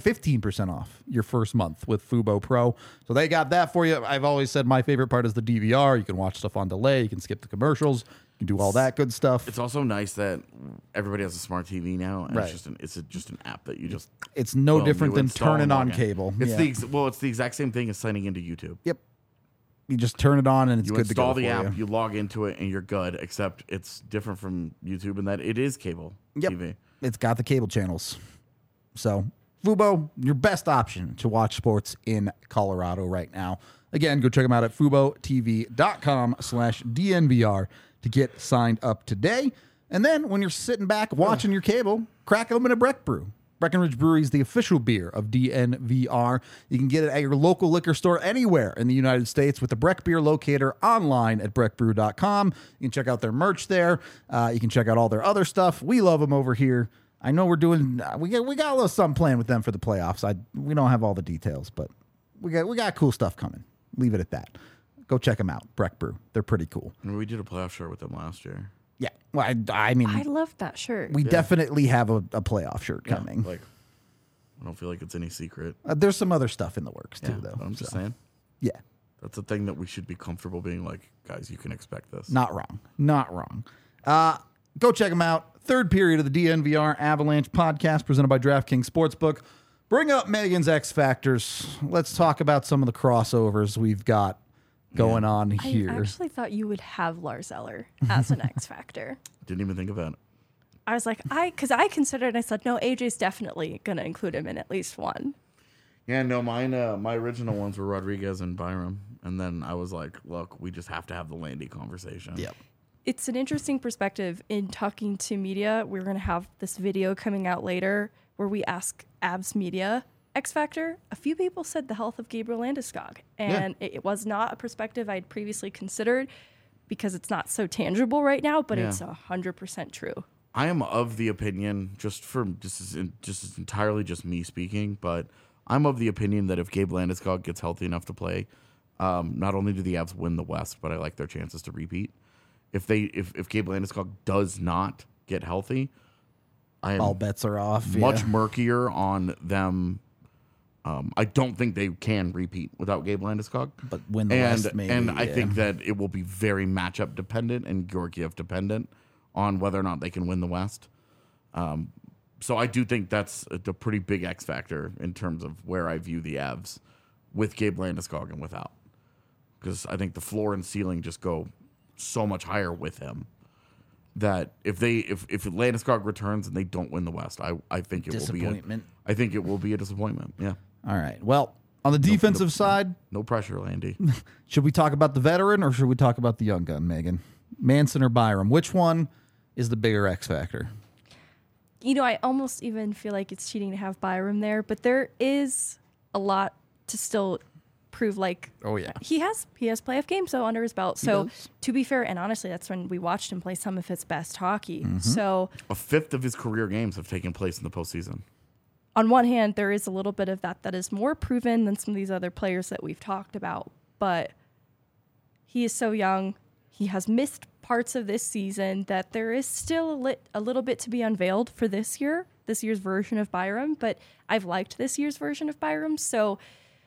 15% off your first month with Fubo Pro. So they got that for you. I've always said my favorite part is the DVR. You can watch stuff on delay. You can skip the commercials. You can do all that good stuff. It's also nice that everybody has a smart TV now, and Right. it's just an app that you just It's no different you than install and turning on log in. cable. It's Yeah. it's the exact same thing as signing into YouTube. Yep. You just turn it on and it's You good to go install the for app, you. you log into it, and you're good. Except it's different from YouTube in that it is cable Yep. TV. It's got the cable channels. So, Fubo, your best option to watch sports in Colorado right now. Again, go check them out at FuboTV.com/DNVR to get signed up today. And then when you're sitting back watching your cable, crack open a Breck Brew. Breckenridge Brewery is the official beer of DNVR. You can get it at your local liquor store anywhere in the United States with the Breck Beer Locator online at breckbrew.com. You can check out their merch there. You can check out all their other stuff. We love them over here. I know we're doing we got a little something planned with them for the playoffs. We don't have all the details, but we got cool stuff coming. Leave it at that. Go check them out, Breck Brew. They're pretty cool. And we did a playoff shirt with them last year. Yeah, well, I mean, I love that shirt. we definitely have a playoff shirt coming. Like, I don't feel like it's any secret. There's some other stuff in the works too, Yeah, though. but I'm just so, saying. yeah, That's a thing that we should be comfortable being like, guys, you can expect this. not wrong, not wrong. Go check them out. Third period of the DNVR Avalanche podcast presented by DraftKings Sportsbook. Bring up Megan's X Factors. Let's talk about some of the crossovers we've got going on here. I actually thought you would have Lars Eller as an X Factor. Didn't even think about it. I was like, because I considered, I said, no, AJ's definitely going to include him in at least one. Yeah, no, mine. My original ones were Rodriguez and Byram, and then I was like, look, we just have to have the Landy conversation. Yep. It's an interesting perspective in talking to media. We're going to have this video coming out later where we ask Abs Media X Factor. A few people said the health of Gabriel Landeskog, and it was not a perspective I'd previously considered because it's not so tangible right now, but it's 100% true. I am of the opinion, just as entirely just me speaking, but I'm of the opinion that if Gabe Landeskog gets healthy enough to play, not only do the Avs win the West, but I like their chances to repeat. If Gabe Landeskog does not get healthy, I am All bets are off. much yeah. murkier on them. I don't think they can repeat without Gabe Landeskog. But win the West, maybe. And I yeah. think that it will be very matchup dependent and Georgiev dependent on whether or not they can win the West. So I do think that's a pretty big X factor in terms of where I view the Avs with Gabe Landeskog and without. Because I think the floor and ceiling just go so much higher with him that if Landeskog returns and they don't win the West, I think it will be Disappointment. I think it will be a disappointment. Yeah. All right. Well, on the defensive side, No pressure, Landy. should we talk about the veteran or should we talk about the young gun, Megan? Manson or Byram? Which one is the bigger X factor? You know, I almost even feel like it's cheating to have Byram there, but there is a lot to still prove. Like, Oh, yeah. he has playoff games so under his belt. So does. to be fair, and honestly, that's when we watched him play some of his best hockey. Mm-hmm. So A fifth of his career games have taken place in the postseason. on one hand, there is a little bit of that is more proven than some of these other players that we've talked about. But he is so young. He has missed parts of this season that there is still a little bit to be unveiled for this year's version of Byram. But I've liked this year's version of Byram. So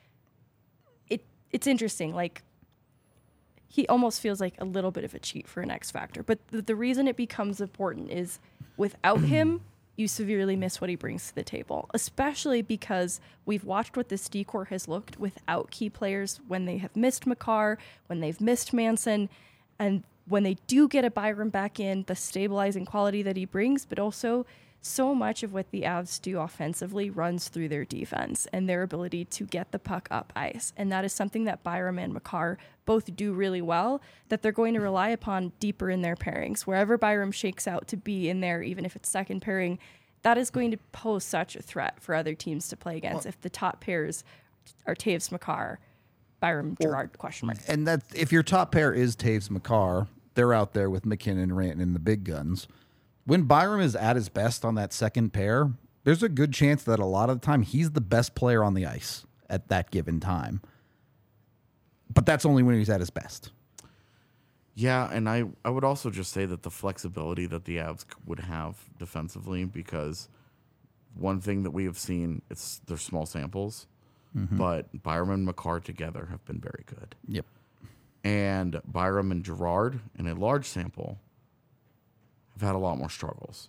it's interesting. Like, he almost feels like a little bit of a cheat for an X factor. But the reason it becomes important is without him, you severely miss what he brings to the table, especially because we've watched what this D-core has looked without key players when they have missed Makar, when they've missed Manson, and when they do get a Byram back in, the stabilizing quality that he brings, but also so much of what the Avs do offensively runs through their defense and their ability to get the puck up ice. And that is something that Byram and Makar both do really well, that they're going to rely upon deeper in their pairings. Wherever Byram shakes out to be in there, even if it's second pairing, that is going to pose such a threat for other teams to play against. If the top pairs are Taves, Makar, Byram, Gerard, question mark. And that if your top pair is Taves Makar, they're out there with McKinnon, Ranton, and the big guns. When Byram is at his best on that second pair, there's a good chance that a lot of the time he's the best player on the ice at that given time. But that's only when he's at his best. Yeah, and I would also just say that the flexibility that the Avs would have defensively, because one thing that we have seen, they're small samples, but Byram and Makar together have been very good. Yep. And Byram and Gerard, in a large sample, have had a lot more struggles.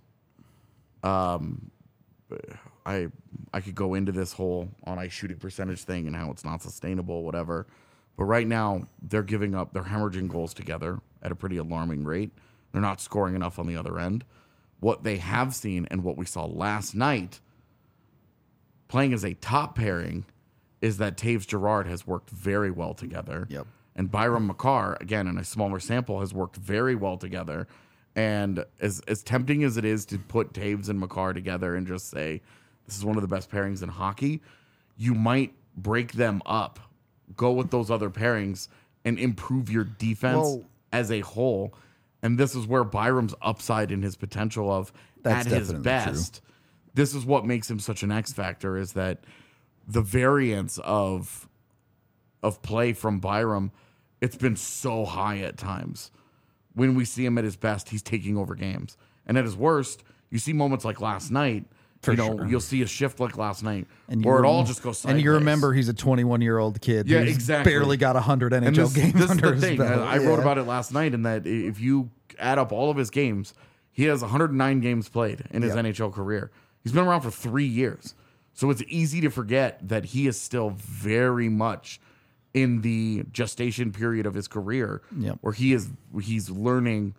I could go into this whole on ice shooting percentage thing and how it's not sustainable, whatever. But right now, they're hemorrhaging goals together at a pretty alarming rate. They're not scoring enough on the other end. What they have seen and what we saw last night, playing as a top pairing, is that Taves Gerard has worked very well together. Yep. And Byram Makar, again, in a smaller sample, has worked very well together. And as tempting as it is to put Taves and Makar together and just say, this is one of the best pairings in hockey, you might break them up, go with those other pairings, and improve your defense Well- as a whole. And this is where Byram's upside and his potential of That's at his definitely best. This is what makes him such an X factor, is that the variance of play from Byram, it's been so high at times. When we see him at his best, he's taking over games. And at his worst, you see moments like last night. For sure. sure. You'll see a shift like last night, And or it you all rem- just goes sideways. And you remember he's a 21-year-old kid Yeah, who's exactly. barely got 100 NHL and this games is under the his thing. belt. I wrote about it last night, in that if you add up all of his games, he has 109 games played in his Yep. NHL career. He's been around for 3 years. So it's easy to forget that he is still very much in the gestation period of his career, Yep. where he's learning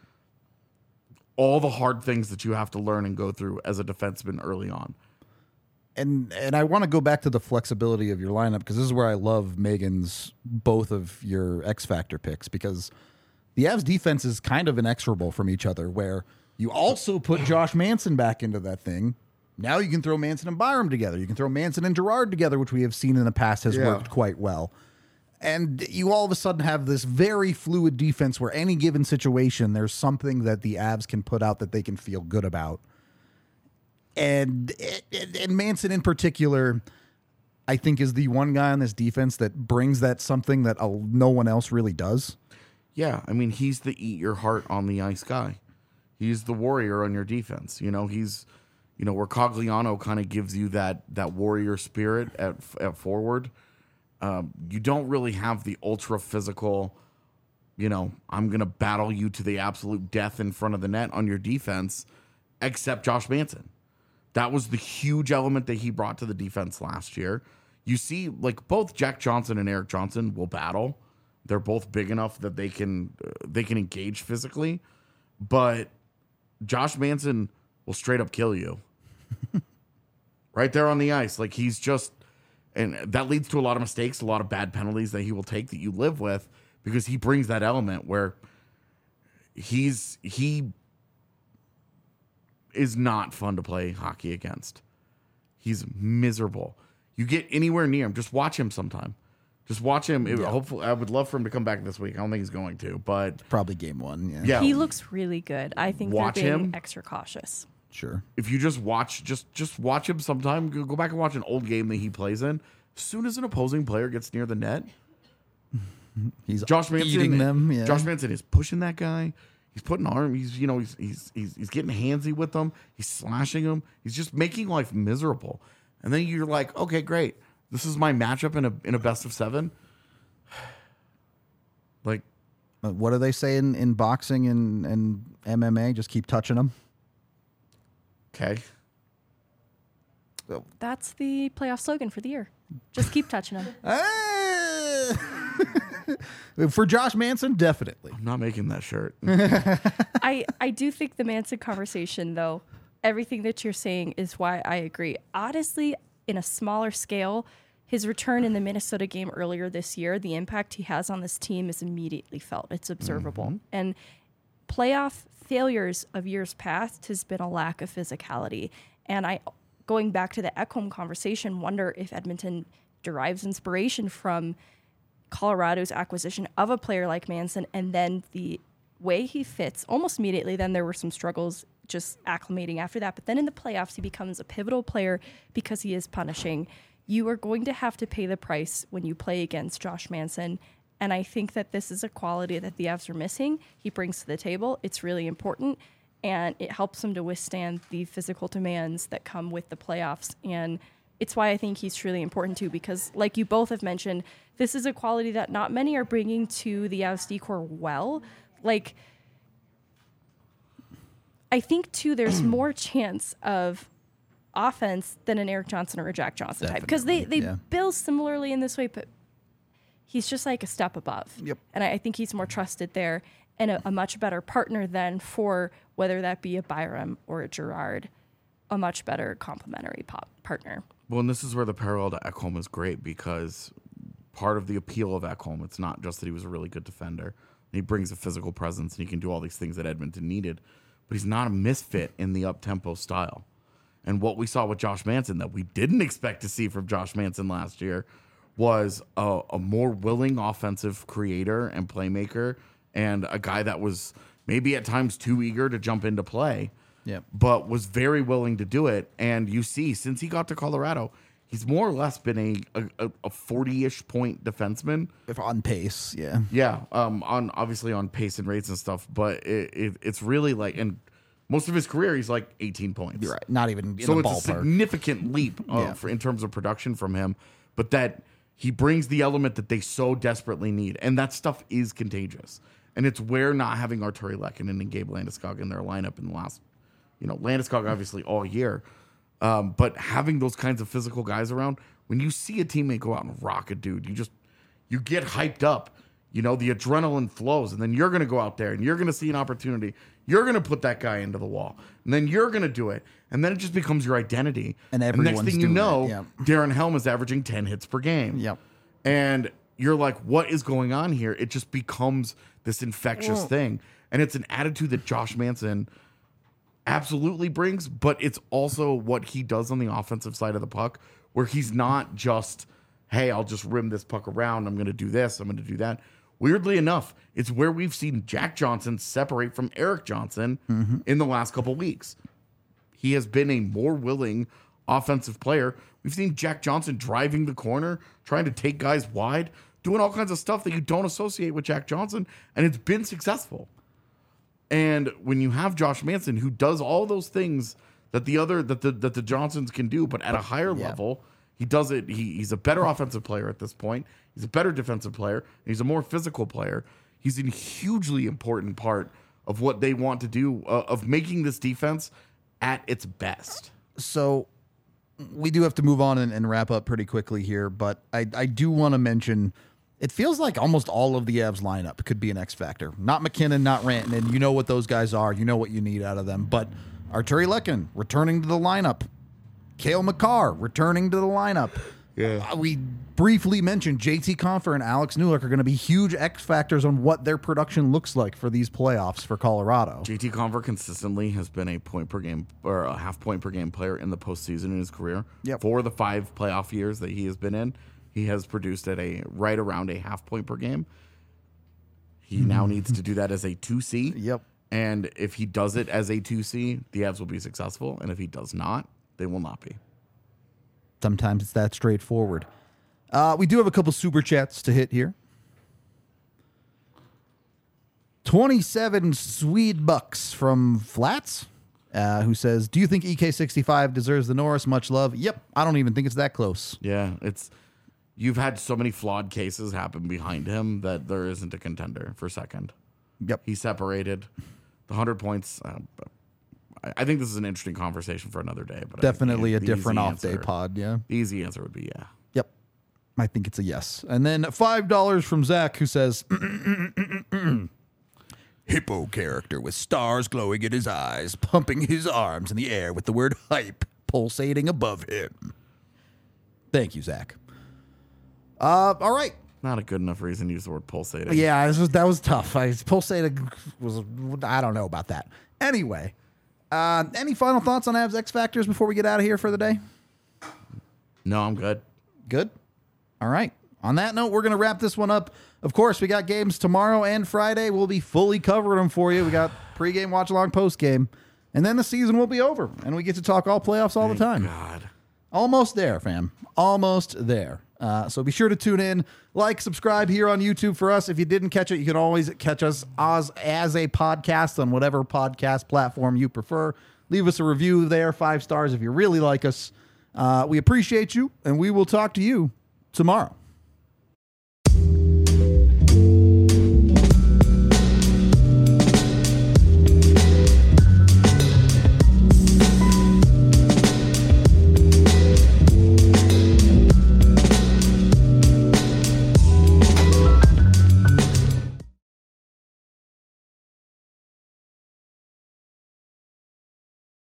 all the hard things that you have to learn and go through as a defenseman early on. And I want to go back to the flexibility of your lineup, because this is where I love Megan's both of your X Factor picks, because the Avs defense is kind of inexorable from each other, where you also put Josh Manson back into that thing. Now you can throw Manson and Byram together. You can throw Manson and Girard together, which we have seen in the past has worked quite well. And you all of a sudden have this very fluid defense where any given situation, there's something that the Avs can put out that they can feel good about. And Manson in particular, I think, is the one guy on this defense that brings that something that no one else really does. Yeah, I mean, he's the eat your heart on the ice guy. He's the warrior on your defense. He's where Cogliano kind of gives you that warrior spirit at forward. You don't really have the ultra physical, I'm going to battle you to the absolute death in front of the net on your defense, except Josh Manson. That was the huge element that he brought to the defense last year. You see, like, both Jack Johnson and Eric Johnson will battle. They're both big enough that they can engage physically, but Josh Manson will straight up kill you right there on the ice. Like, he's just, and that leads to a lot of mistakes, a lot of bad penalties that he will take that you live with, because he brings that element where he is not fun to play hockey against. He's miserable. You get anywhere near him, just watch him sometime. Just watch him. Hopefully, I would love for him to come back this week. I don't think he's going to, but Probably game one. Yeah. yeah, He looks really good. I think Watch they're being him. extra cautious. Sure. if you just watch, just watch him sometime. Go back and watch an old game that he plays in. As soon as an opposing player gets near the net, He's Josh Manson eating them. Yeah. Josh Manson is pushing that guy. He's putting arm. He's getting handsy with them. He's slashing them. He's just making life miserable. And then you're like, okay, great. This is my matchup in a best of 7. Like, What do they say in boxing and MMA? Just keep touching them. okay, That's the playoff slogan for the year. Just keep touching them. For Josh Manson, definitely. I'm not making that shirt. I do think the Manson conversation, though, everything that you're saying is why I agree. Honestly, in a smaller scale, his return in the Minnesota game earlier this year, the impact he has on this team is immediately felt. It's observable. And playoff failures of years past has been a lack of physicality. And going back to the Ekholm conversation, wonder if Edmonton derives inspiration from Colorado's acquisition of a player like Manson, and then the way he fits almost immediately. Then there were some struggles just acclimating after that. But then in the playoffs, he becomes a pivotal player because he is punishing. You are going to have to pay the price when you play against Josh Manson. And I think that this is a quality that the Avs are missing. He brings to the table. It's really important. And it helps him to withstand the physical demands that come with the playoffs. And it's why I think he's truly important too, because like you both have mentioned, this is a quality that not many are bringing to the Avs decor well. Like, I think too, there's more chance of offense than an Eric Johnson or a Jack Johnson type, because they yeah. build similarly in this way, but he's just like a step above. Yep. And I think he's more trusted there and a much better partner than for whether that be a Byram or a Girard, a much better complementary partner. Well, and this is where the parallel to Ekholm is great, because part of the appeal of Ekholm, it's not just that he was a really good defender. He brings a physical presence and he can do all these things that Edmonton needed, but he's not a misfit in the up-tempo style. And what we saw with Josh Manson that we didn't expect to see from Josh Manson last year was a more willing offensive creator and playmaker, and a guy that was maybe at times too eager to jump into play, but was very willing to do it. And you see, since he got to Colorado, he's more or less been a 40-ish point defenseman. If on pace, yeah. Yeah, on obviously on pace and rates and stuff, but it's really like, and most of his career he's like 18 points. You're right. Not even in So the it's ballpark. a significant leap in terms of production from him, but that he brings the element that they so desperately need, and that stuff is contagious. And it's where not having Arturi Lehkonen and Gabe Landeskog in their lineup in the last, Landeskog obviously all year, but having those kinds of physical guys around, when you see a teammate go out and rock a dude, you get hyped up. The adrenaline flows, and then you're going to go out there and you're going to see an opportunity. You're going to put that guy into the wall, and then you're going to do it, and then it just becomes your identity. And next everyone's thing you doing know, it, yeah. Darren Helm is averaging 10 hits per game. Yep. And you're like, what is going on here? It just becomes this infectious thing, and it's an attitude that Josh Manson absolutely brings, but it's also what he does on the offensive side of the puck, where he's not just, hey, I'll just rim this puck around. I'm going to do this. I'm going to do that. Weirdly enough, it's where we've seen Jack Johnson separate from Eric Johnson in the last couple weeks. He has been a more willing offensive player. We've seen Jack Johnson driving the corner, trying to take guys wide, doing all kinds of stuff that you don't associate with Jack Johnson, and it's been successful. And when you have Josh Manson, who does all those things that the Johnsons can do, but at a higher level, he does it. He's a better offensive player at this point. He's a better defensive player. And he's a more physical player. He's a hugely important part of what they want to do, of making this defense at its best. So we do have to move on and wrap up pretty quickly here, but I do want to mention, it feels like almost all of the Avs lineup could be an X factor. Not McKinnon, not Rantanen. You know what those guys are. You know what you need out of them. But Arturi Lehkonen returning to the lineup. Cale Makar returning to the lineup. Yeah. We briefly mentioned JT Compher and Alex Newhook are going to be huge X factors on what their production looks like for these playoffs for Colorado. JT Conver consistently has been a point per game or a half point per game player in the postseason in his career. Yep. For the 5 playoff years that he has been in, he has produced at right around a half point per game. He now needs to do that as a 2C. Yep. And if he does it as a 2C, the Avs will be successful. And if he does not, they will not be. Sometimes it's that straightforward. We do have a couple super chats to hit here. 27 Swede bucks from Flats, who says, do you think EK65 deserves the Norris? Much love. Yep. I don't even think it's that close. Yeah, you've had so many flawed cases happen behind him that there isn't a contender for second. Yep. He separated the 100 points. I think this is an interesting conversation for another day. But Definitely I a think the different easy off-day answer- pod, yeah. The easy answer would be yeah. Yep. I think it's a yes. And then $5 from Zach, who says, hippo character with stars glowing in his eyes, pumping his arms in the air with the word hype pulsating above him. Thank you, Zach. All right. Not a good enough reason to use the word pulsating. Yeah, that was tough. Pulsating was, I don't know about that. Anyway, any final thoughts on Avs X Factors before we get out of here for the day? No, I'm good. Good. All right. On that note, we're going to wrap this one up. Of course, we got games tomorrow and Friday. We'll be fully covering them for you. We got pregame, watch along, postgame, and then the season will be over, and we get to talk all playoffs all the time. God. Almost there, fam. Almost there. So be sure to tune in, like, subscribe here on YouTube for us. If you didn't catch it, you can always catch us as a podcast on whatever podcast platform you prefer. Leave us a review there, 5 stars if you really like us. We appreciate you, and we will talk to you tomorrow.